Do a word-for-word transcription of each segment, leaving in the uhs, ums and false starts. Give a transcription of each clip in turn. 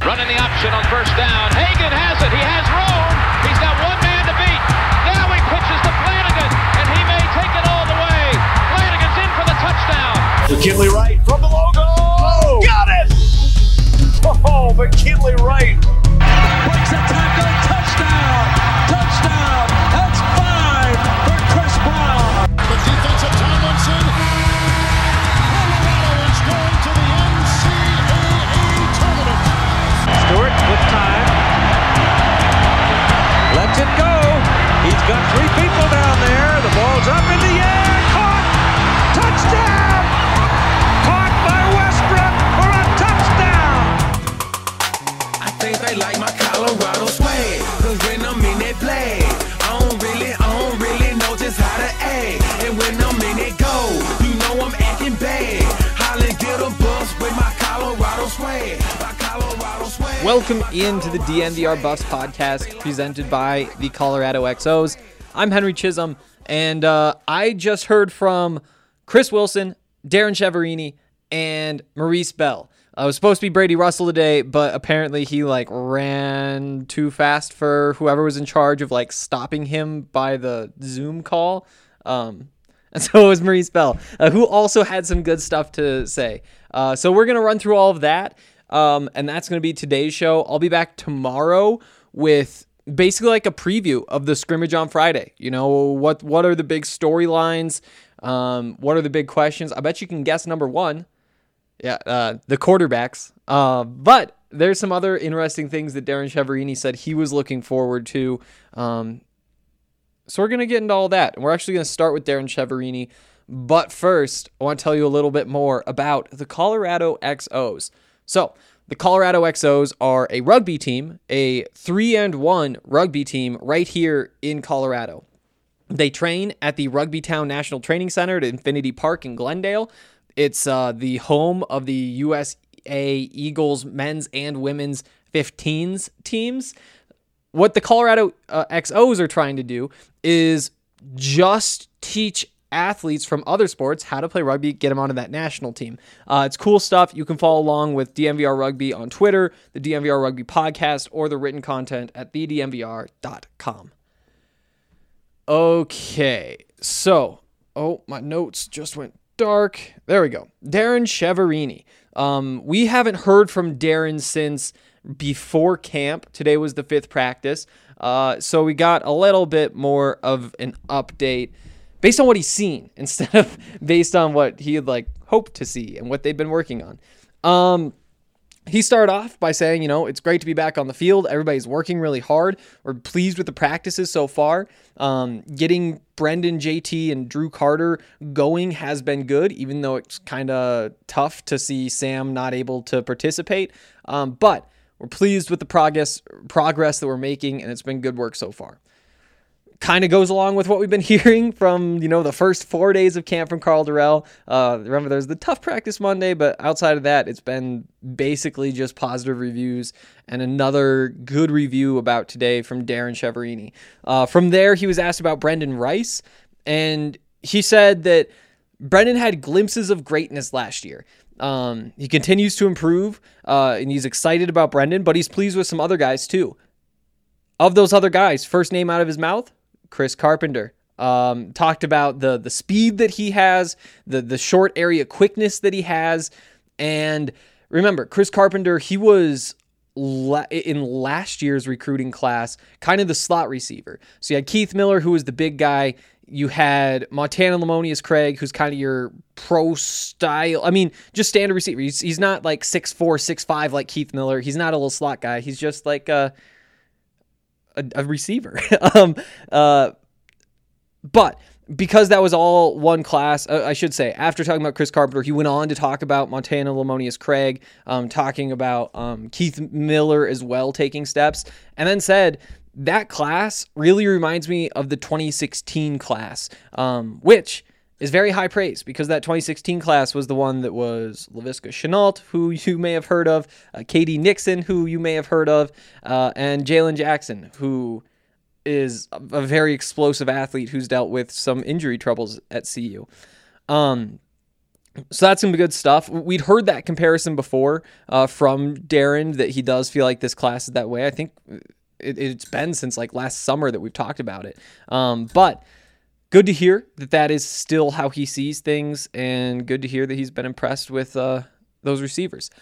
Running the option on first down. Hagan has it. He has room. He's got one man to beat. Now he pitches to Flanagan, and he may take it all the way. Flanagan's in for the touchdown. McKinley Wright from the logo. Oh, got it! Oh, McKinley Wright. Breaks a tackle. Touchdown. Touchdown. That's five for Chris Brown. The defense of Tomlinson. Colorado is going to the N C double A tournament. Stewart with time. Lets it go. He's got three people down there. The ball's up in the air. Caught. Touchdown. Caught by Westbrook for a touchdown. I think they like my Colorado swag. Cause when I'm in that play, I don't really, I don't really know just how to act. And when I'm in it go, you know I'm acting bad. Holland get a bus with my Colorado swag. My Colorado swag. Welcome into the D N V R Buffs podcast presented by the Colorado X Os. I'm Henry Chisholm, and uh, I just heard from Chris Wilson, Darren Chiaverini, and Maurice Bell. Uh, it was supposed to be Brady Russell today, but apparently he like ran too fast for whoever was in charge of like stopping him by the Zoom call. Um, and so it was Maurice Bell, uh, who also had some good stuff to say. Uh, so we're going to run through all of that. Um, and that's going to be today's show. I'll be back tomorrow with basically like a preview of the scrimmage on Friday. You know, what, what are the big storylines? Um, what are the big questions? I bet you can guess number one. Yeah, uh, the quarterbacks. Uh, but there's some other interesting things that Darren Chiaverini said he was looking forward to. Um, so we're going to get into all that. And we're actually going to start with Darren Chiaverini. But first, I want to tell you a little bit more about the Colorado X Os. So the Colorado X Os are a rugby team, a three and one rugby team right here in Colorado. They train at the Rugby Town National Training Center at Infinity Park in Glendale. It's uh, the home of the U S A Eagles men's and women's fifteens teams. What the Colorado uh, X Os are trying to do is just teach athletes from other sports how to play rugby, get them onto that national team. Uh, it's cool stuff. You can follow along with D N V R Rugby on Twitter, the D N V R Rugby podcast, or the written content at the d n v r dot com. Okay, so, oh, my notes just went dark. There we go. Darren Chiaverini. Um, we haven't heard from Darren since before camp. Today was the fifth practice. Uh, so we got a little bit more of an update based on what he's seen instead of based on what he had like hoped to see and what they've been working on. Um, he started off by saying, you know, it's great to be back on the field. Everybody's working really hard. We're pleased with the practices so far. Um, getting Brendan, J T, and Drew Carter going has been good, even though it's kind of tough to see Sam not able to participate. Um, but we're pleased with the progress progress that we're making, and it's been good work so far. Kind of goes along with what we've been hearing from, you know, the first four days of camp from Carl Durrell. Uh, remember, there's the tough practice Monday, but outside of that, it's been basically just positive reviews and another good review about today from Darren Chiaverini. Uh, from there, he was asked about Brendan Rice, and he said that Brendan had glimpses of greatness last year. Um, he continues to improve, uh, and he's excited about Brendan, but he's pleased with some other guys too. Of those other guys, first name out of his mouth, Chris Carpenter. Um, talked about the the speed that he has, the the short area quickness that he has, and remember, Chris Carpenter, he was la- in last year's recruiting class, kind of the slot receiver. So you had Keith Miller, who was the big guy. You had Montana Lamonius Craig, who's kind of your pro style. I mean, just standard receiver. He's, he's not like six four, six five like Keith Miller. He's not a little slot guy. He's just like a A, a receiver. um, uh, but because that was all one class, uh, I should say, after talking about Chris Carpenter, he went on to talk about Montana Lamonius Craig, um, talking about um, Keith Miller as well taking steps, and then said, that class really reminds me of the twenty sixteen class, um, which is very high praise because that twenty sixteen class was the one that was Laviska Shenault, who you may have heard of, uh, Katie Nixon, who you may have heard of, uh, and Jalen Jackson, who is a very explosive athlete who's dealt with some injury troubles at C U. Um, So that's some good stuff. We'd heard that comparison before uh, from Darren, that he does feel like this class is that way. I think it, it's been since like last summer that we've talked about it. Um, but good to hear that that is still how he sees things, and good to hear that he's been impressed with uh, those receivers.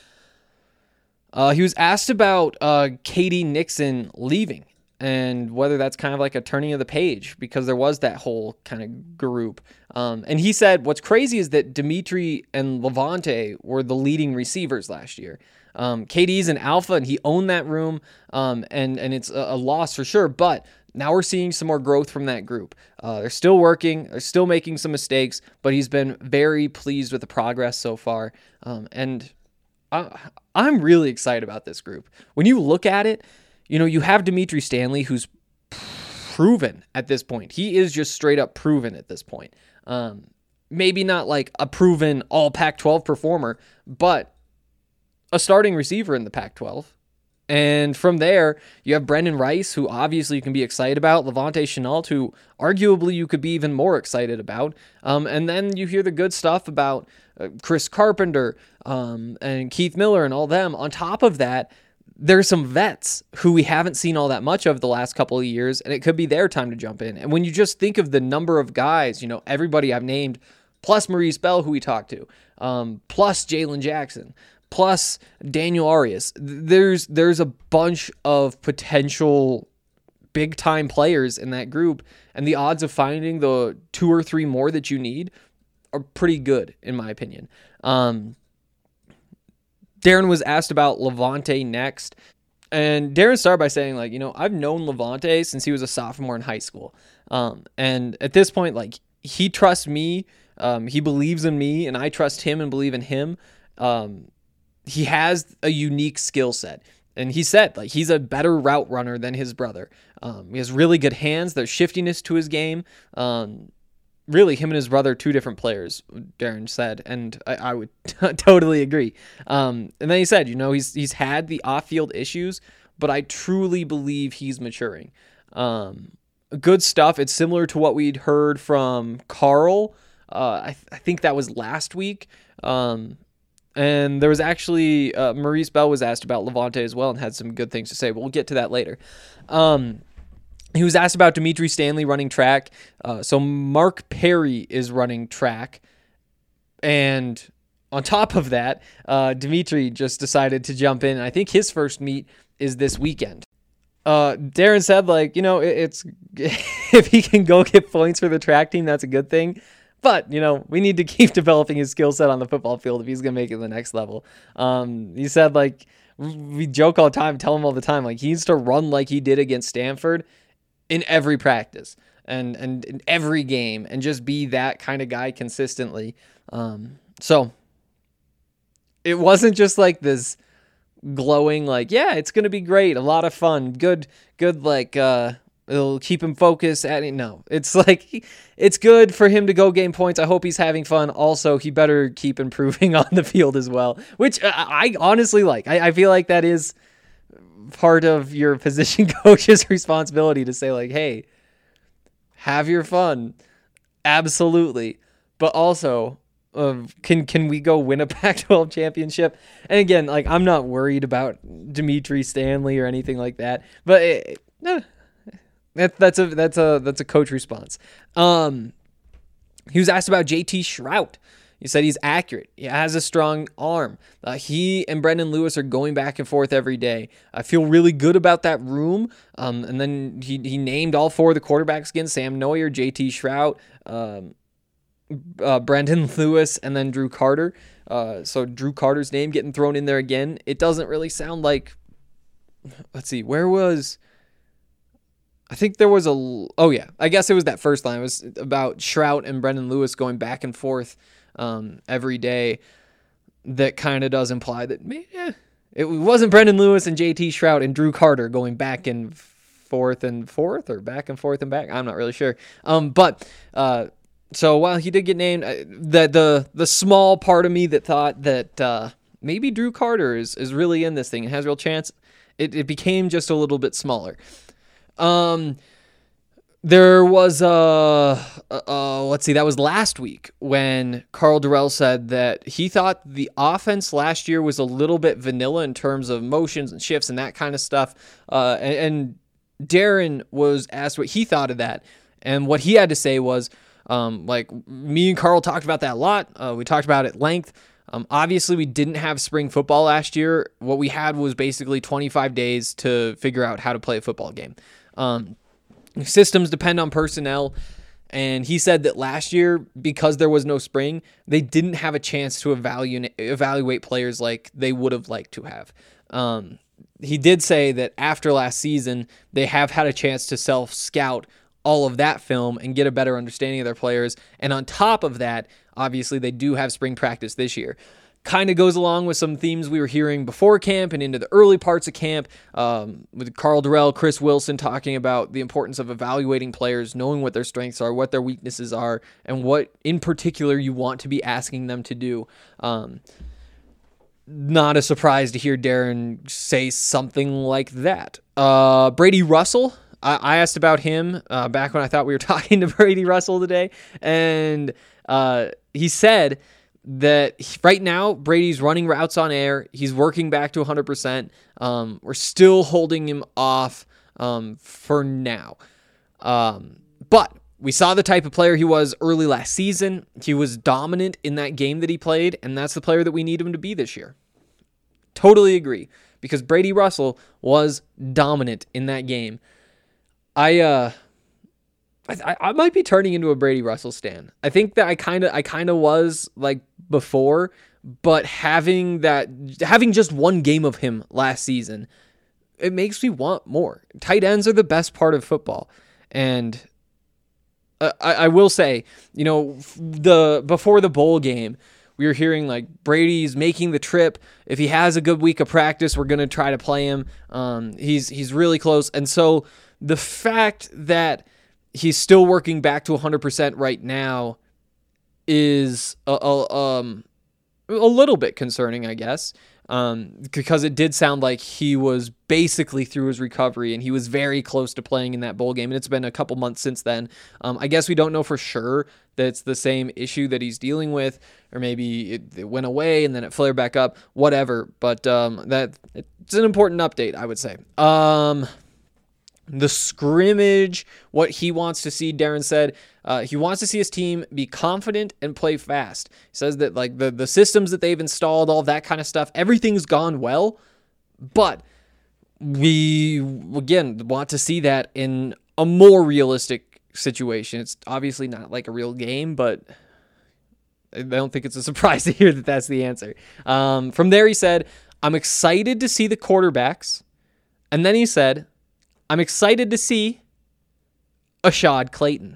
Uh, he was asked about uh, K D Nixon leaving and whether that's kind of like a turning of the page, because there was that whole kind of group. Um, and he said, what's crazy is that Dimitri and Lavonte were the leading receivers last year. Um, K D's an alpha, and he owned that room, um, and, and it's a, a loss for sure. But now we're seeing some more growth from that group. Uh, they're still working. They're still making some mistakes, but he's been very pleased with the progress so far. Um, and I, I'm really excited about this group. When you look at it, you know, you have Dimitri Stanley, who's proven at this point. He is just straight up proven at this point. Um, maybe not like a proven all Pac twelve performer, but a starting receiver in the Pac twelve. And from there, you have Brendan Rice, who obviously you can be excited about, Lavonte Shenault, who arguably you could be even more excited about. Um, and then you hear the good stuff about uh, Chris Carpenter um, and Keith Miller and all them. On top of that, there's some vets who we haven't seen all that much of the last couple of years, and it could be their time to jump in. And when you just think of the number of guys, you know, everybody I've named, plus Maurice Bell, who we talked to, um, plus Jalen Jackson, plus Daniel Arias, there's there's a bunch of potential big-time players in that group, and the odds of finding the two or three more that you need are pretty good, in my opinion. Um, Darren was asked about Lavonte next, and Darren started by saying, like, you know, I've known Lavonte since he was a sophomore in high school. Um, and at this point, like, he trusts me, um, he believes in me, and I trust him and believe in him. Um, he has a unique skill set. And he said, like, he's a better route runner than his brother. Um, he has really good hands. There's shiftiness to his game. Um, really, him and his brother are two different players, Darren said, and I, I would t- totally agree. Um, and then he said, you know, he's he's had the off-field issues, but I truly believe he's maturing. Um, good stuff. It's similar to what we'd heard from Carl. Uh, I, th- I think that was last week. Um, and there was actually, uh, Maurice Bell was asked about Lavonte as well and had some good things to say, but we'll get to that later. Um, He was asked about Dimitri Stanley running track. Uh, so Mark Perry is running track. And on top of that, uh, Dimitri just decided to jump in. I think his first meet is this weekend. Uh, Darren said, like, you know, it, it's if he can go get points for the track team, that's a good thing. But, you know, we need to keep developing his skill set on the football field if he's going to make it to the next level. Um, he said, like, we joke all the time, tell him all the time, like, he needs to run like he did against Stanford in every practice and, and in every game, and just be that kind of guy consistently. Um, so it wasn't just like this glowing, like, yeah, it's going to be great. A lot of fun. Good, good. Like, uh, it'll keep him focused at it. No, it's like, it's good for him to go gain points. I hope he's having fun. Also, he better keep improving on the field as well, which I, I honestly like. I, I feel like that is part of your position coach's responsibility to say, like, hey, have your fun. Absolutely. But also, uh, can can we go win a Pac twelve championship? And again, like, I'm not worried about Dimitri Stanley or anything like that, but it, eh, that, that's a that's a that's a coach response. Um, he was asked about J T Shrout. He said he's accurate. He has a strong arm. Uh, he and Brendan Lewis are going back and forth every day. I feel really good about that room. Um, and then he he named all four of the quarterbacks again: Sam Neuer, J T Shrout, um, uh, Brendan Lewis, and then Drew Carter. Uh, so Drew Carter's name getting thrown in there again. It doesn't really sound like. Let's see, where was? I think there was a. Oh yeah, I guess it was that first line. It was about Shrout and Brendan Lewis going back and forth um, every day. That kind of does imply that eh, it wasn't Brendan Lewis and J T Shrout and Drew Carter going back and forth and forth, or back and forth and back. I'm not really sure. Um, but uh, so while he did get named, the the the small part of me that thought that uh, maybe Drew Carter is is really in this thing and has a real chance, it, it became just a little bit smaller. Um, There was a, uh, uh, let's see, that was last week when Karl Dorrell said that he thought the offense last year was a little bit vanilla in terms of motions and shifts and that kind of stuff. Uh, and, and Darren was asked what he thought of that. And what he had to say was, um, like, me and Karl talked about that a lot. Uh, we talked about it at length. Um, obviously, we didn't have spring football last year. What we had was basically twenty-five days to figure out how to play a football game. Um, Systems depend on personnel, and he said that last year, because there was no spring, they didn't have a chance to evaluate evaluate players like they would have liked to have. Um, he did say that after last season, they have had a chance to self-scout all of that film and get a better understanding of their players, and on top of that, obviously, they do have spring practice this year. Kind of goes along with some themes we were hearing before camp and into the early parts of camp, um, with Karl Dorrell, Chris Wilson talking about the importance of evaluating players, knowing what their strengths are, what their weaknesses are, and what in particular you want to be asking them to do. Um, not a surprise to hear Darren say something like that. Uh, Brady Russell, I, I asked about him uh, back when I thought we were talking to Brady Russell today, and uh, he said that right now Brady's running routes on air. He's working back to one hundred percent. Um, we're still holding him off um, for now. Um, but we saw the type of player he was early last season. He was dominant in that game that he played, and that's the player that we need him to be this year. Totally agree, because Brady Russell was dominant in that game. I uh I, I might be turning into a Brady Russell stan. I think that I kind of I kind of was like before, but having that having just one game of him last season, it makes me want more. Tight ends are the best part of football, and uh, I, I will say, you know, the before the bowl game, we were hearing like Brady's making the trip. If he has a good week of practice, we're gonna try to play him. Um, he's he's really close, and so the fact that he's still working back to one hundred percent right now is a, a, um, a little bit concerning, I guess, um, because it did sound like he was basically through his recovery and he was very close to playing in that bowl game, and it's been a couple months since then. Um, I guess we don't know for sure that it's the same issue that he's dealing with, or maybe it, it went away and then it flared back up, whatever, but um, that it's an important update, I would say. Um... The scrimmage, what he wants to see, Darren said, uh, he wants to see his team be confident and play fast. He says that like the, the systems that they've installed, all that kind of stuff, everything's gone well, but we, again, want to see that in a more realistic situation. It's obviously not like a real game, but I don't think it's a surprise to hear that that's the answer. Um, from there, he said, I'm excited to see the quarterbacks. And then he said, I'm excited to see Ashaad Clayton.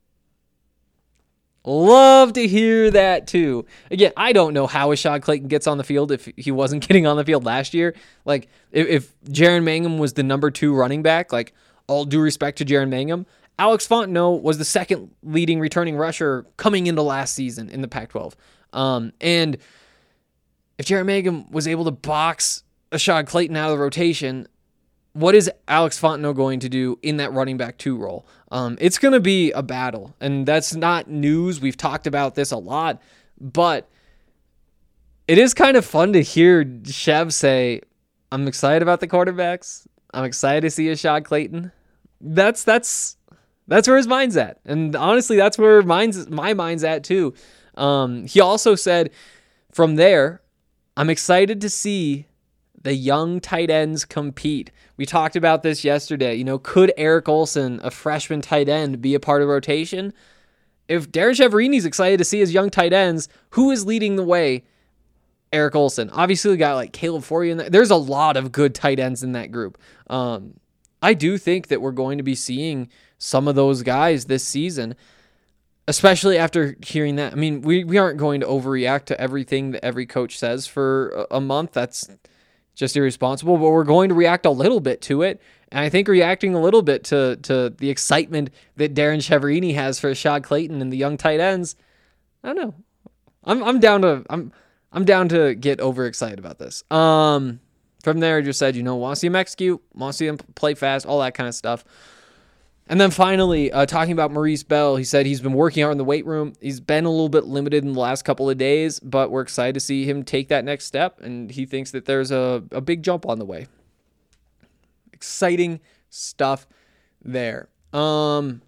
Love to hear that too. Again, I don't know how Ashaad Clayton gets on the field if he wasn't getting on the field last year. Like, if, if Jaren Mangham was the number two running back, like, all due respect to Jaren Mangham, Alex Fontenot was the second leading returning rusher coming into last season in the Pac twelve. Um, and if Jaren Mangham was able to box Ashaad Clayton out of the rotation, what is Alex Fontenot going to do in that running back two role? Um, it's going to be a battle, and that's not news. We've talked about this a lot, but it is kind of fun to hear Chev say, I'm excited about the quarterbacks. I'm excited to see Ashaad Clayton. That's that's that's where his mind's at, and honestly, that's where mine's my mind's at too. Um, he also said, from there, I'm excited to see the young tight ends compete. We talked about this yesterday. You know, could Eric Olson, a freshman tight end, be a part of rotation? If Darren Chiaverini's excited to see his young tight ends, who is leading the way? Eric Olson. Obviously, we got like Caleb Forey in there. There's a lot of good tight ends in that group. Um, I do think that we're going to be seeing some of those guys this season, especially after hearing that. I mean, we, we aren't going to overreact to everything that every coach says for a, a month. That's just irresponsible, but we're going to react a little bit to it. And I think reacting a little bit to to the excitement that Darren Chiaverini has for Ashaad Clayton and the young tight ends, I don't know. I'm I'm down to I'm I'm down to get overexcited about this. Um, from there, I just said, you know, want to see him execute, want to see him play fast, all that kind of stuff. And then finally, uh, talking about Maurice Bell, he said he's been working out in the weight room. He's been a little bit limited in the last couple of days, but we're excited to see him take that next step, and he thinks that there's a, a big jump on the way. Exciting stuff there. Um,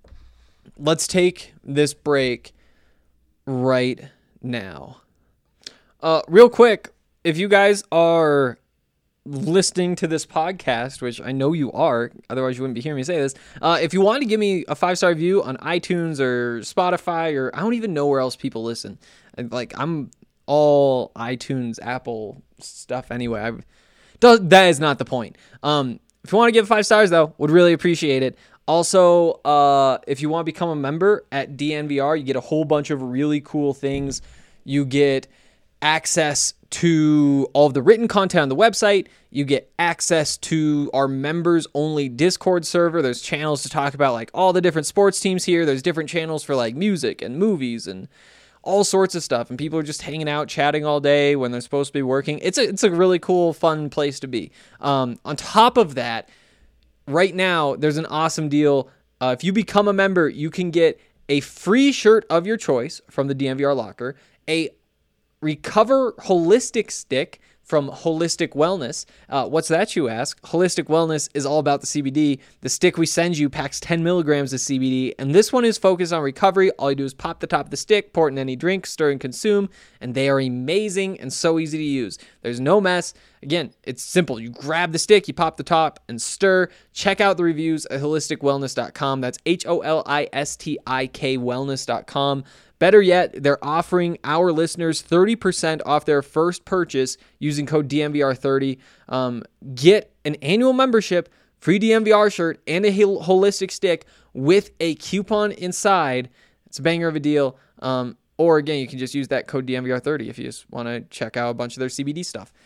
let's take this break right now. Uh, real quick, if you guys are listening to this podcast, which I know you are, otherwise you wouldn't be hearing me say this, uh, if you want to give me a five-star review on iTunes or Spotify, or I don't even know where else people listen. Like, I'm all iTunes, Apple stuff anyway. I've, that is not the point. Um, if you want to give five stars, though, would really appreciate it. Also, uh, if you want to become a member at D N V R, you get a whole bunch of really cool things. You get access to all of the written content on the website. You get access to our members only Discord server. There's channels to talk about like all the different sports teams here. There's different channels for like music and movies and all sorts of stuff. And people are just hanging out, chatting all day when they're supposed to be working. It's a, it's a really cool, fun place to be. Um, on top of that, right now, there's an awesome deal. Uh, if you become a member, you can get a free shirt of your choice from the D N V R locker, a Recover Holistic Stick from Holistic Wellness. Uh, what's that, you ask? Holistic Wellness is all about the C B D. The stick we send you packs ten milligrams of C B D, and this one is focused on recovery. All you do is pop the top of the stick, pour it in any drink, stir and consume, and they are amazing and so easy to use. There's no mess. Again, it's simple. You grab the stick, you pop the top, and stir. Check out the reviews at holistic wellness dot com. That's H O L I S T I K wellness dot com. Better yet, they're offering our listeners thirty percent off their first purchase using code D N V R thirty. Um, get an annual membership, free D N V R shirt, and a holistic stick with a coupon inside. It's a banger of a deal. Um, or again, you can just use that code D N V R thirty if you just want to check out a bunch of their C B D stuff.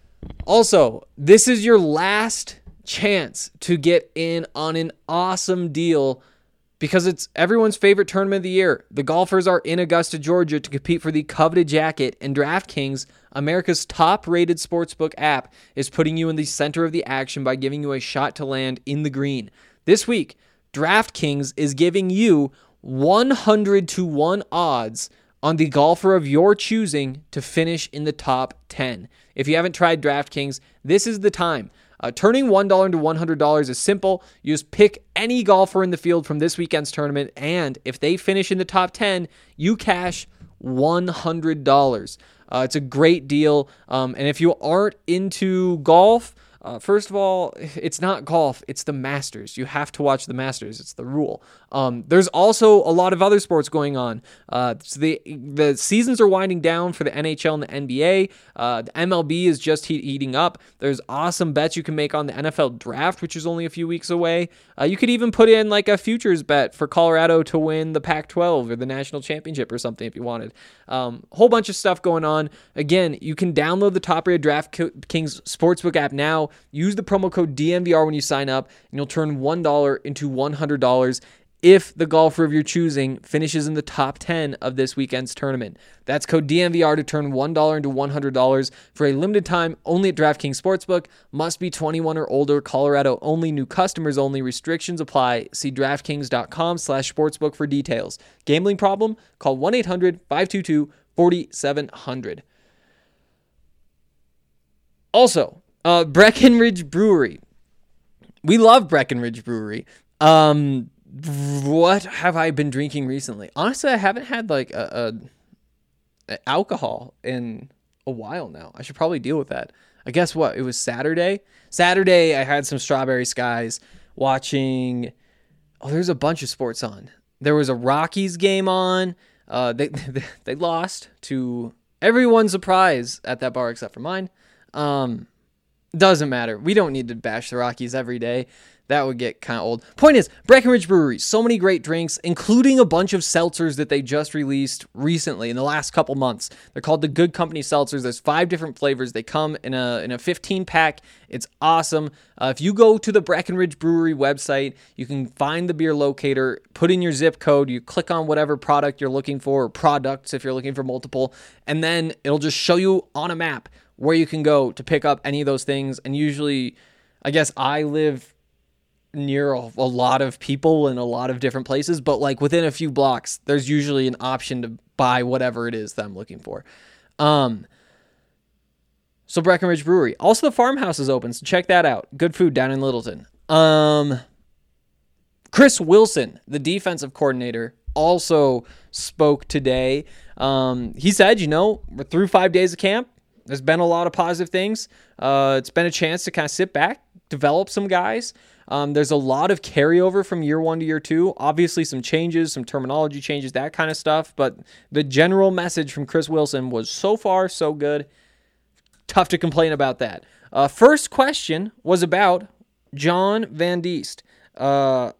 Also, this is your last chance to get in on an awesome deal because it's everyone's favorite tournament of the year. The golfers are in Augusta, Georgia to compete for the coveted jacket, and DraftKings, America's top-rated sportsbook app, is putting you in the center of the action by giving you a shot to land in the green. This week, DraftKings is giving you one hundred to one odds on the golfer of your choosing to finish in the top ten. If you haven't tried DraftKings, this is the time. Uh, turning one dollar into one hundred dollars is simple. You just pick any golfer in the field from this weekend's tournament, and if they finish in the top ten, you cash one hundred dollars. Uh, it's a great deal, um, and if you aren't into golf, uh, first of all, it's not golf, it's the Masters. You have to watch the Masters. It's the rule. Um, there's also a lot of other sports going on. Uh, so the the seasons are winding down for the N H L and the N B A. Uh, the M L B is just heat, heating up. There's awesome bets you can make on the N F L draft, which is only a few weeks away. Uh, you could even put in like a futures bet for Colorado to win the Pac twelve or the national championship or something if you wanted. Um, whole bunch of stuff going on. Again, you can download the top-rated DraftKings Sportsbook app now. Use the promo code D N V R when you sign up, and you'll turn one dollar into one hundred dollars if the golfer of your choosing finishes in the top ten of this weekend's tournament. That's code D N V R to turn one dollar into one hundred dollars for a limited time only at DraftKings Sportsbook. Must be twenty-one or older. Colorado only. New customers only. Restrictions apply. See DraftKings.com slash sportsbook for details. Gambling problem? Call one eight hundred five two two four seven zero zero. Also, uh, Breckenridge Brewery. We love Breckenridge Brewery. Um... What have I been drinking recently? Honestly, I haven't had like a, a, a alcohol in a while now. I should probably deal with that. I guess what? It was Saturday. Saturday, I had some Strawberry Skies watching. Oh, there's a bunch of sports on. There was a Rockies game on. Uh, they they lost to everyone's surprise at that bar except for mine. Um, doesn't matter. We don't need to bash the Rockies every day. That would get kind of old. Point is, Breckenridge Brewery, so many great drinks, including a bunch of seltzers that they just released recently in the last couple months. They're called the Good Company Seltzers. There's five different flavors. They come in a in a fifteen pack. It's awesome. Uh, if you go to the Breckenridge Brewery website, you can find the beer locator, put in your zip code, you click on whatever product you're looking for, or products if you're looking for multiple, and then it'll just show you on a map where you can go to pick up any of those things. And usually, I guess I live near a, a lot of people in a lot of different places, but like within a few blocks, there's usually an option to buy whatever it is that I'm looking for. Um, so Breckenridge Brewery. Also, the Farmhouse is open, so check that out. Good food down in Littleton. Um, Chris Wilson, the defensive coordinator, also spoke today. Um, he said, you know, we're through five days of camp. There's been a lot of positive things. Uh, it's been a chance to kind of sit back, develop some guys. Um, there's a lot of carryover from year one to year two. Obviously, some changes, some terminology changes, that kind of stuff. But the general message from Chris Wilson was so far so good. Tough to complain about that. Uh, first question was about John Van Diest. Uh,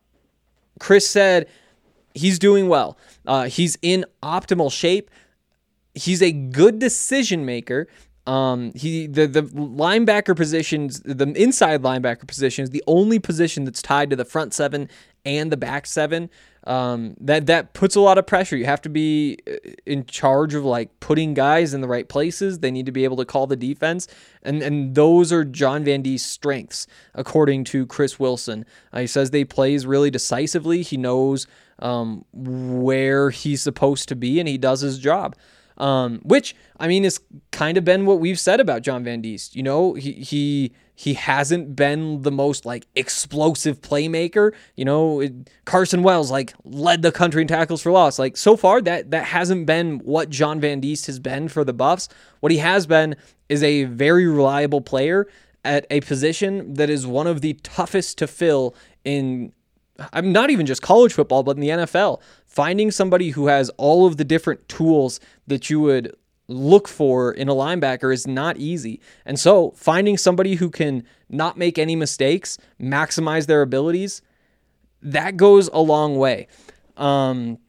Chris said he's doing well. Uh, he's in optimal shape. He's a good decision maker. Um, he the the linebacker positions, the inside linebacker position is the only position that's tied to the front seven and the back seven. Um, that that puts a lot of pressure. You have to be in charge of like putting guys in the right places. They need to be able to call the defense, and and those are John Van Diest's strengths, according to Chris Wilson. Uh, he says they plays really decisively. He knows um, where he's supposed to be, and he does his job. Um, which, I mean, has kind of been what we've said about John Van Diest. You know, he he he hasn't been the most, like, explosive playmaker. You know, it, Carson Wells, like, led the country in tackles for loss. Like, so far, that that hasn't been what John Van Diest has been for the Buffs. What he has been is a very reliable player at a position that is one of the toughest to fill in, I'm not even just college football, but in the N F L. Finding somebody who has all of the different tools that you would look for in a linebacker is not easy. And so finding somebody who can not make any mistakes, maximize their abilities, that goes a long way. Um,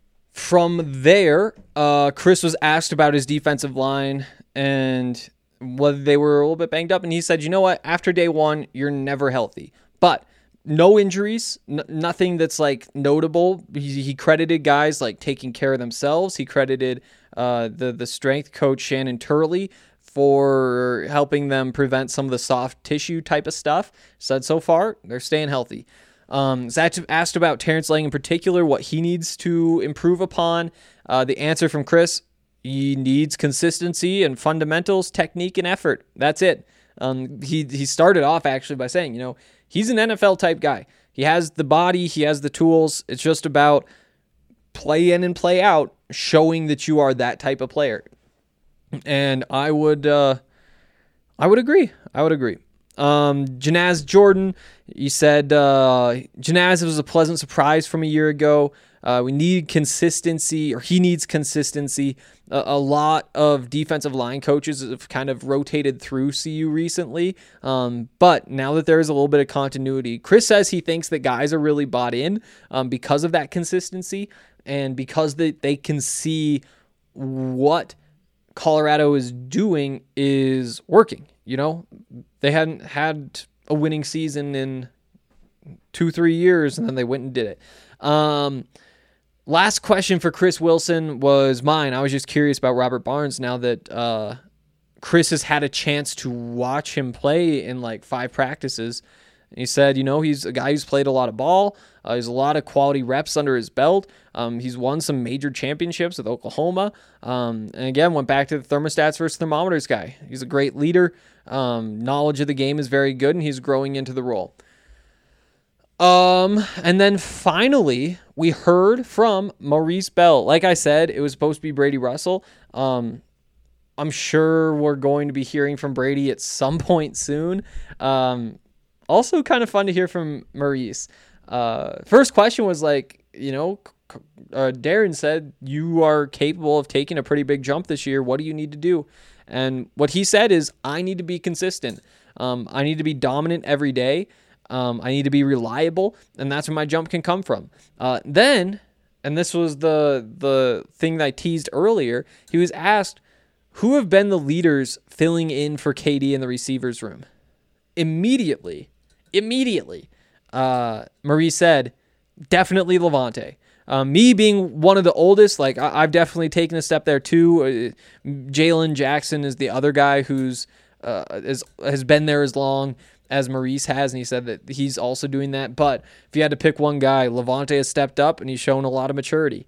from there, uh, Chris was asked about his defensive line and whether they were a little bit banged up. And he said, you know what? After day one, you're never healthy. But no injuries, n- nothing that's like notable. He, he credited guys like taking care of themselves. He credited uh, the the strength coach Shannon Turley for helping them prevent some of the soft tissue type of stuff. Said so far they're staying healthy. Um, Zach asked about Terrence Lang in particular, what he needs to improve upon. Uh, the answer from Chris: he needs consistency and fundamentals, technique, and effort. That's it. Um, he he started off actually by saying, you know, he's an N F L type guy. He has the body, he has the tools. It's just about play in and play out, showing that you are that type of player. And I would, uh, I would agree. I would agree. Um, Janaz Jordan, you said uh, Janaz was a pleasant surprise from a year ago. Uh, we need consistency, or he needs consistency. A, a lot of defensive line coaches have kind of rotated through C U recently, um, but now that there is a little bit of continuity, Chris says he thinks that guys are really bought in um, because of that consistency and because they, they can see what Colorado is doing is working. You know, they hadn't had a winning season in two, three years, and then they went and did it. Um, Last question for Chris Wilson was mine. I was just curious about Robert Barnes now that uh, Chris has had a chance to watch him play in like five practices. And he said, you know, he's a guy who's played a lot of ball. Uh, he's a lot of quality reps under his belt. Um, he's won some major championships with Oklahoma. Um, and again, went back to the thermostats versus thermometers guy. He's a great leader. Um, knowledge of the game is very good, and he's growing into the role. Um, and then finally, we heard from Maurice Bell. Like I said, it was supposed to be Brady Russell. Um, I'm sure we're going to be hearing from Brady at some point soon. Um, also kind of fun to hear from Maurice. Uh, first question was like, you know, uh, Darren said, you are capable of taking a pretty big jump this year. What do you need to do? And what he said is, I need to be consistent. Um, I need to be dominant every day. Um, I need to be reliable, and that's where my jump can come from. Uh, then, and this was the the thing that I teased earlier, he was asked, who have been the leaders filling in for K D in the receivers room? Immediately, immediately, uh, Marie said, definitely Levante. Um, me being one of the oldest, like I- I've definitely taken a step there too. Uh, Jalen Jackson is the other guy who's uh, is, has been there as long. as Maurice has, and he said that he's also doing that. But if you had to pick one guy, Lavonte has stepped up, and he's shown a lot of maturity.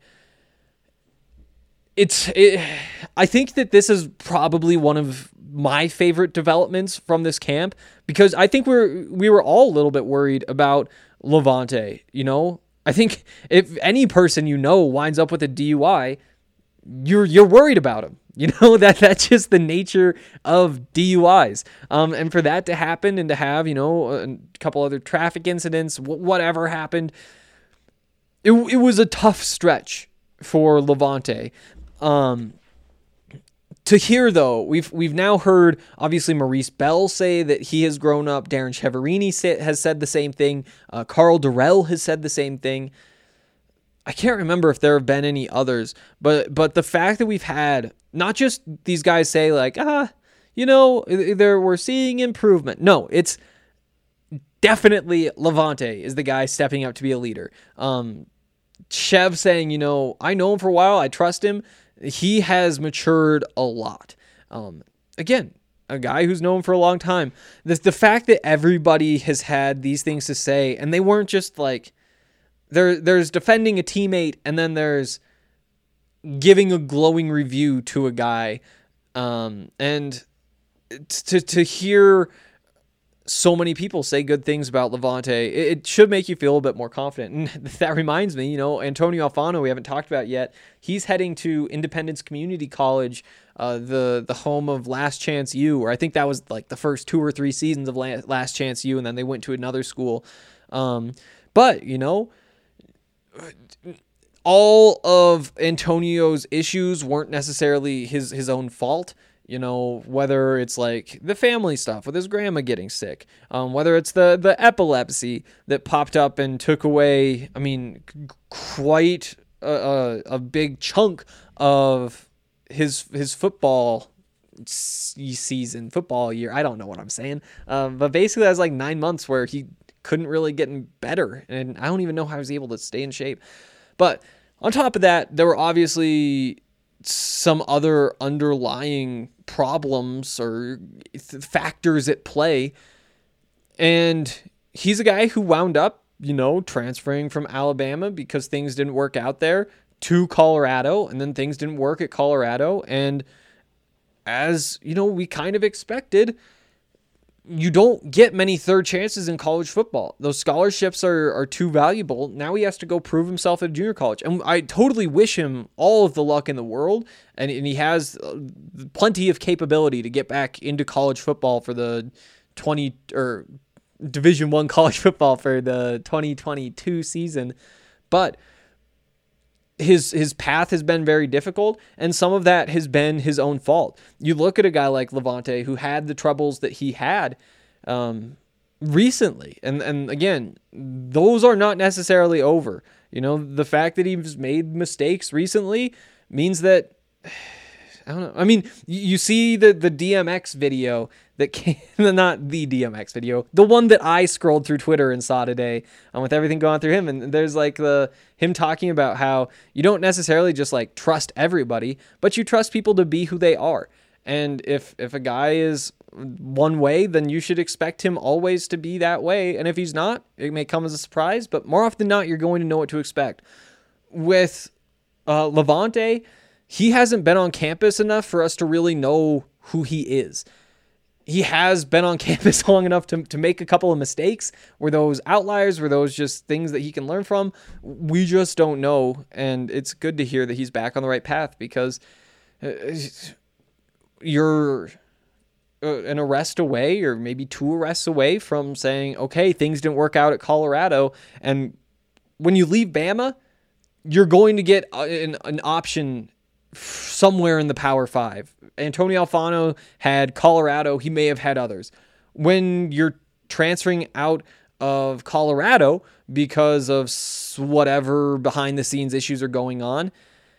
It's, it, I think that this is probably one of my favorite developments from this camp, because I think we're we were all a little bit worried about Lavonte. You know, I think if any person you know winds up with a D U I, you're you're worried about him. You know, that that's just the nature of D U Is. Um, and for that to happen and to have, you know, a couple other traffic incidents, whatever happened, it it was a tough stretch for Lavonte. Um, to hear though, we've we've now heard obviously Maurice Bell say that he has grown up. Darren Chiaverini say, has said the same thing. Uh, Carl Durrell has said the same thing. I can't remember if there have been any others, but but the fact that we've had not just these guys say like, ah, you know, there we're seeing improvement. No, it's definitely Lavonte is the guy stepping up to be a leader. Um, Chev saying, you know, I know him for a while. I trust him. He has matured a lot. Um, again, a guy who's known for a long time. The, the fact that everybody has had these things to say, and they weren't just like, there. there's defending a teammate, and then there's giving a glowing review to a guy. Um, and to to hear so many people say good things about Lavonte, it, it should make you feel a bit more confident. And that reminds me, you know, Antonio Alfano, we haven't talked about yet. He's heading to Independence Community College, uh, the the home of Last Chance U, or I think that was like the first two or three seasons of Last Chance U, and then they went to another school. Um, but, you know, all of Antonio's issues weren't necessarily his, his own fault. You know, whether it's like the family stuff with his grandma getting sick, um, whether it's the, the epilepsy that popped up and took away, I mean, quite a, a, a big chunk of his his football season, football year. I don't know what I'm saying. Um, but basically, that was like nine months where he couldn't really get better. And I don't even know how he was able to stay in shape. But on top of that, there were obviously some other underlying problems or factors at play. And he's a guy who wound up, you know, transferring from Alabama because things didn't work out there to Colorado, and then things didn't work at Colorado. And as, you know, we kind of expected, you don't get many third chances in college football. Those scholarships are, are too valuable. Now he has to go prove himself at junior college. And I totally wish him all of the luck in the world. And, and he has plenty of capability to get back into college football for the twenty or Division One college football for the twenty twenty-two season. But his his path has been very difficult, and some of that has been his own fault. You look at a guy like Lavonte, who had the troubles that he had um, recently, and and again, those are not necessarily over. You know, the fact that he's made mistakes recently means that, I don't know. I mean, you see the, the D M X video that came, not the D M X video, the one that I scrolled through Twitter and saw today, um, with everything going through him. And there's like the, him talking about how you don't necessarily just like trust everybody, but you trust people to be who they are. And if, if a guy is one way, then you should expect him always to be that way. And if he's not, it may come as a surprise, but more often than not, you're going to know what to expect. With uh, Lavonte, he hasn't been on campus enough for us to really know who he is. He has been on campus long enough to, to make a couple of mistakes. Were those outliers? Were those just things that he can learn from? We just don't know. And it's good to hear that he's back on the right path, because uh, you're uh, an arrest away, or maybe two arrests away from saying, okay, things didn't work out at Colorado. And when you leave Bama, you're going to get an, an option somewhere in the Power Five. Antonio Alfano had Colorado. He may have had others. When you're transferring out of Colorado because of whatever behind the scenes issues are going on,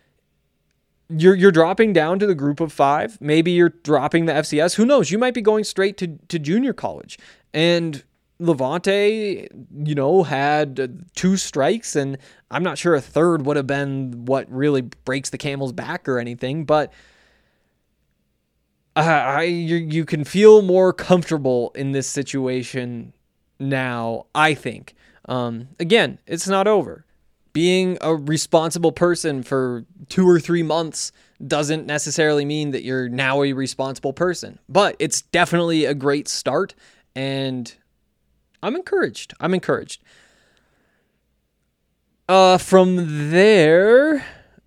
you're you're dropping down to the group of five. Maybe you're dropping the F C S. Who knows? You might be going straight to, to junior college. And Lavonte, you know, had two strikes, and I'm not sure a third would have been what really breaks the camel's back or anything, but I you, you can feel more comfortable in this situation now, I think. Um, again, it's not over. Being a responsible person for two or three months doesn't necessarily mean that you're now a responsible person, but it's definitely a great start, and I'm encouraged. I'm encouraged. Uh, from there,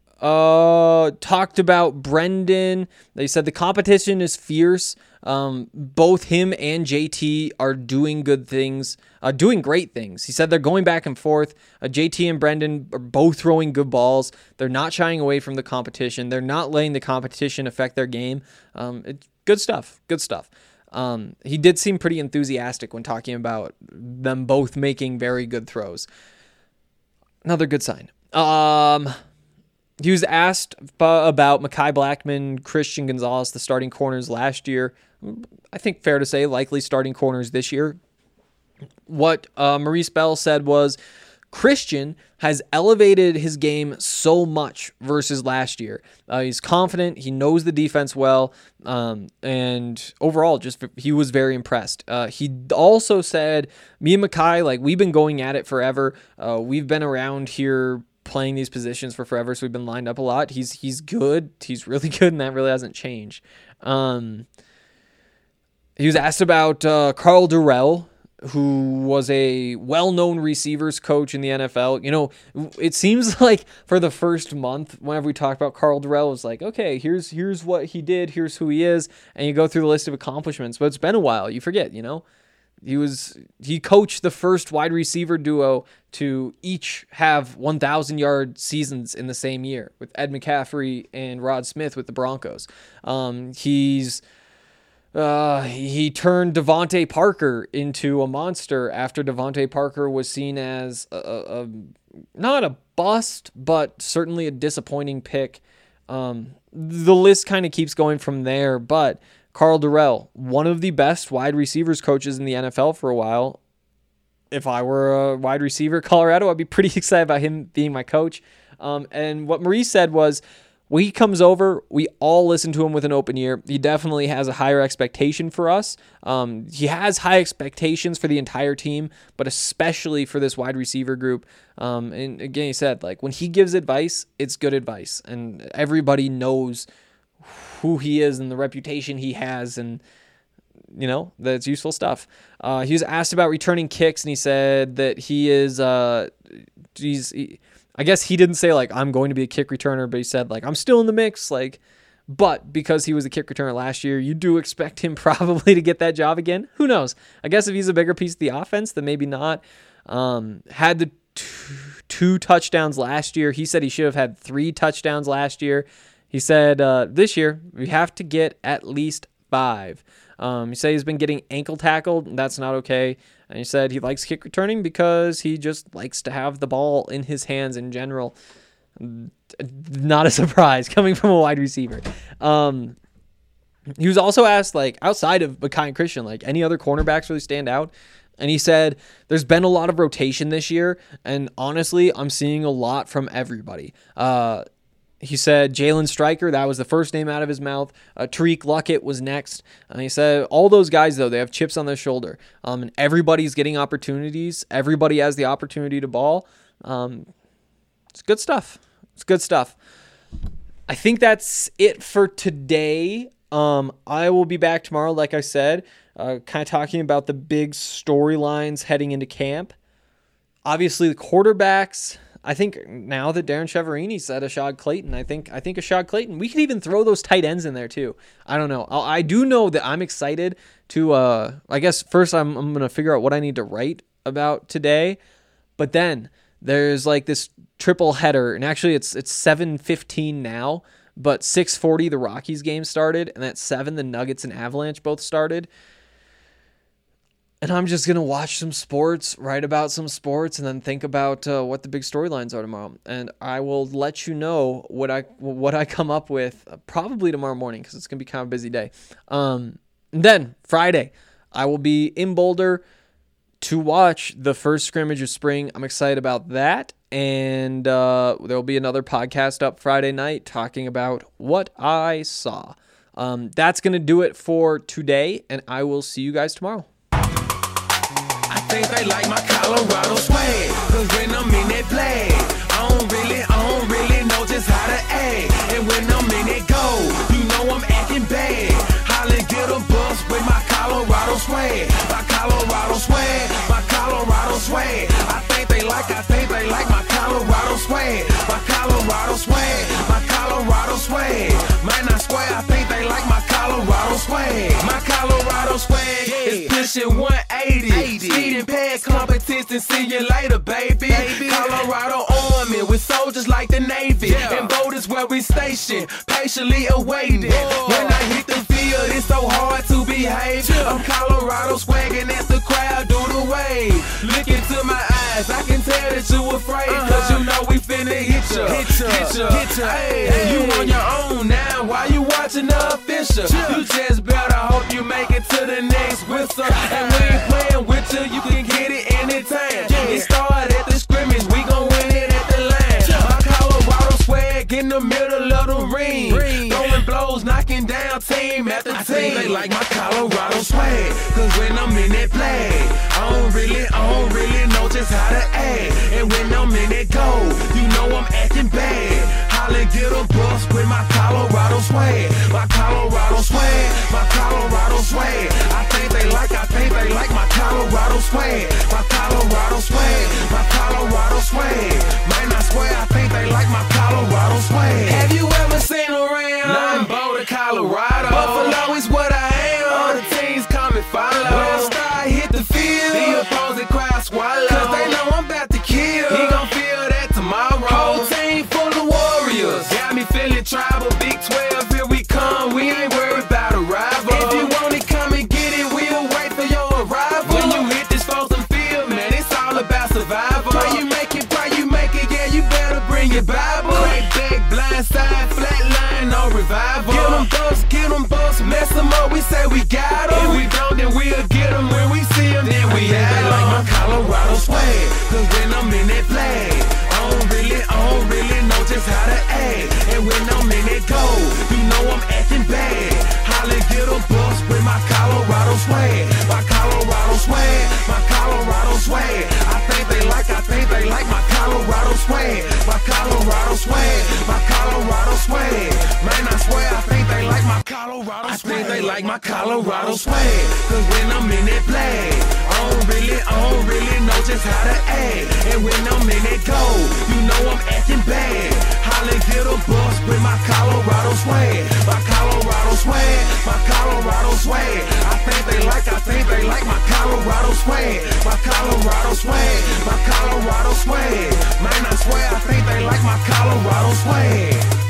uh, talked about Brendan. They said the competition is fierce. Um, both him and J T are doing good things, uh, doing great things. He said they're going back and forth. Uh, J T and Brendan are both throwing good balls. They're not shying away from the competition. They're not letting the competition affect their game. Um, it's good stuff. Good stuff. Um, he did seem pretty enthusiastic when talking about them both making very good throws. Another good sign. Um, he was asked about Mekhi Blackmon, Christian Gonzalez, the starting corners last year. I think fair to say likely starting corners this year. What uh, Maurice Bell said was Christian has elevated his game so much versus last year. Uh, he's confident. He knows the defense well. Um, and overall, just he was very impressed. Uh, he also said, me and Mekhi, like, we've been going at it forever. Uh, we've been around here playing these positions for forever, so we've been lined up a lot. He's he's good. He's really good, and that really hasn't changed. Um, he was asked about uh, Carl Durrell, who was a well-known receivers coach in the N F L. You know, it seems like for the first month, whenever we talked about Carl Durrell, it was like, okay, here's here's what he did, here's who he is, and you go through the list of accomplishments. But it's been a while. You forget, you know? He was he coached the first wide receiver duo to each have one thousand yard seasons in the same year with Ed McCaffrey and Rod Smith with the Broncos. Um, he's Uh, he turned Devontae Parker into a monster after Devontae Parker was seen as a, a, a not a bust, but certainly a disappointing pick. Um, the list kind of keeps going from there, but Carl Durrell, one of the best wide receivers coaches in the N F L for a while. If I were a wide receiver at Colorado, I'd be pretty excited about him being my coach. Um, and what Maurice said was, when he comes over, we all listen to him with an open ear. He definitely has a higher expectation for us. Um, he has high expectations for the entire team, but especially for this wide receiver group. Um, and again, he said, like, when he gives advice, it's good advice. And everybody knows who he is and the reputation he has, and, you know, that's useful stuff. Uh, he was asked about returning kicks, and he said that he is, uh, he's, he, I guess he didn't say, like, I'm going to be a kick returner, but he said, like, I'm still in the mix. Like, but because he was a kick returner last year, you do expect him probably to get that job again. Who knows? I guess if he's a bigger piece of the offense, then maybe not. Um, had the two, two touchdowns last year. He said he should have had three touchdowns last year. He said uh, this year we have to get at least five. Um, he said he's been getting ankle tackled. That's not okay. And he said he likes kick returning because he just likes to have the ball in his hands in general. Not a surprise coming from a wide receiver. Um, he was also asked, like, outside of Mekhi and Christian, like, any other cornerbacks really stand out? And he said, there's been a lot of rotation this year, and honestly, I'm seeing a lot from everybody. Uh, He said Jalen Stryker, that was the first name out of his mouth. Uh, Tariq Luckett was next. And he said all those guys, though, they have chips on their shoulder. Um, and everybody's getting opportunities. Everybody has the opportunity to ball. Um, it's good stuff. It's good stuff. I think that's it for today. Um, I will be back tomorrow, like I said, uh, kind of talking about the big storylines heading into camp. Obviously, the quarterbacks. I think now that Darren Chiaverini said Ashad Clayton, I think I think Ashad Clayton, we could even throw those tight ends in there too. I don't know. I, I do know that I'm excited to, uh, I guess first I'm, I'm going to figure out what I need to write about today, but then there's like this triple header, and actually it's it's seven fifteen now, but six forty the Rockies game started, and at seven the Nuggets and Avalanche both started. And I'm just going to watch some sports, write about some sports, and then think about uh, what the big storylines are tomorrow. And I will let you know what I what I come up with uh, probably tomorrow morning, because it's going to be kind of a busy day. Um, and then Friday, I will be in Boulder to watch the first scrimmage of spring. I'm excited about that. And uh, there will be another podcast up Friday night talking about what I saw. Um, that's going to do it for today, and I will see you guys tomorrow. I think they like my Colorado swag, cause when I'm in that play, I don't really, I don't really know just how to act. And when I'm in that go, you know I'm acting bad. Holla, get a bus with my Colorado swag, my Colorado swag, my Colorado swag. I think they like, I think they like my Colorado swag, my Colorado swag, my Colorado swag. Man, I swear, I think they like my Colorado swag, my Colorado swag is pushing one eighty. Speeding past competition, see you later, baby. baby. Colorado Army with soldiers like the Navy, yeah. And boat is where we station, patiently awaiting. Whoa. When I hit the field, it's so hard to behave. Yeah. I'm Colorado swagging as the crowd do the wave. Look into my eyes, I can tell that you afraid, uh-huh. Cause you know we finna hit ya, hit ya, hit ya, hit ya. Hey, hey. You on your own now, why you watching the official? Yeah. You just better hope you make it to the next whistle. And we ain't playing with you, you can get it anytime. Yeah. It started at the scrimmage, we gon' win it at the line. Yeah. My Colorado swag in the middle of the ring, ring. Throwing blows, knocking down team after I team. Think they like my Colorado swag, cause when I'm in that play, I don't really, I don't really know just how to act. And when I'm in that go, you know I'm acting bad. Holla, get a bus with my Colorado swag, my Colorado swag, my Colorado swag. I think they like, I think they like my Colorado swag, my Colorado swag, my Colorado swag. Man, I swear, I think they like my Colorado swag. Have you ever seen around? Nothing Boulder, Colorado. Buffalo is what I am. All the teams come and follow. When I start hit the field, the opposing crowd swallow, cause they know I'm about to kill. He gon' feel that tomorrow. Whole team full of warriors, got me feeling tribal. Big twelve, here we come. We ain't worried about a rival. If you want it, come and get it. We'll wait for your arrival. When you hit this frozen field, man, it's all about survival. Pray you make it, pray you make it. Yeah, you better bring your Bible. Crack back, blind side, flat line, no revival. Get them bumps, get them bumps, mess them up. We say we got them. If we don't, then we'll get them. When we see them, then we have them. Like my Colorado swag, cause when I'm in that flag, I don't really, I don't really know just how to act. And when I'm in that go, you know I'm acting bad. Holla, get a bus with my Colorado swag, my Colorado swag, my Colorado swag. I think they like, I think they like my Colorado swag, my Colorado swag, my Colorado swag. Man, I swear, I think they like my Colorado swag. I think they like my Colorado swag, cause when I'm in that flag, I don't really, I don't really know just how to act. And when I'm in that go, you know I'm acting bad. Holla, get a bus with my Colorado swag, my Colorado swag, my Colorado swag. I think they like, I think they like my Colorado swag, my Colorado swag, my Colorado swag. Man, I swear, I think they like my Colorado swag.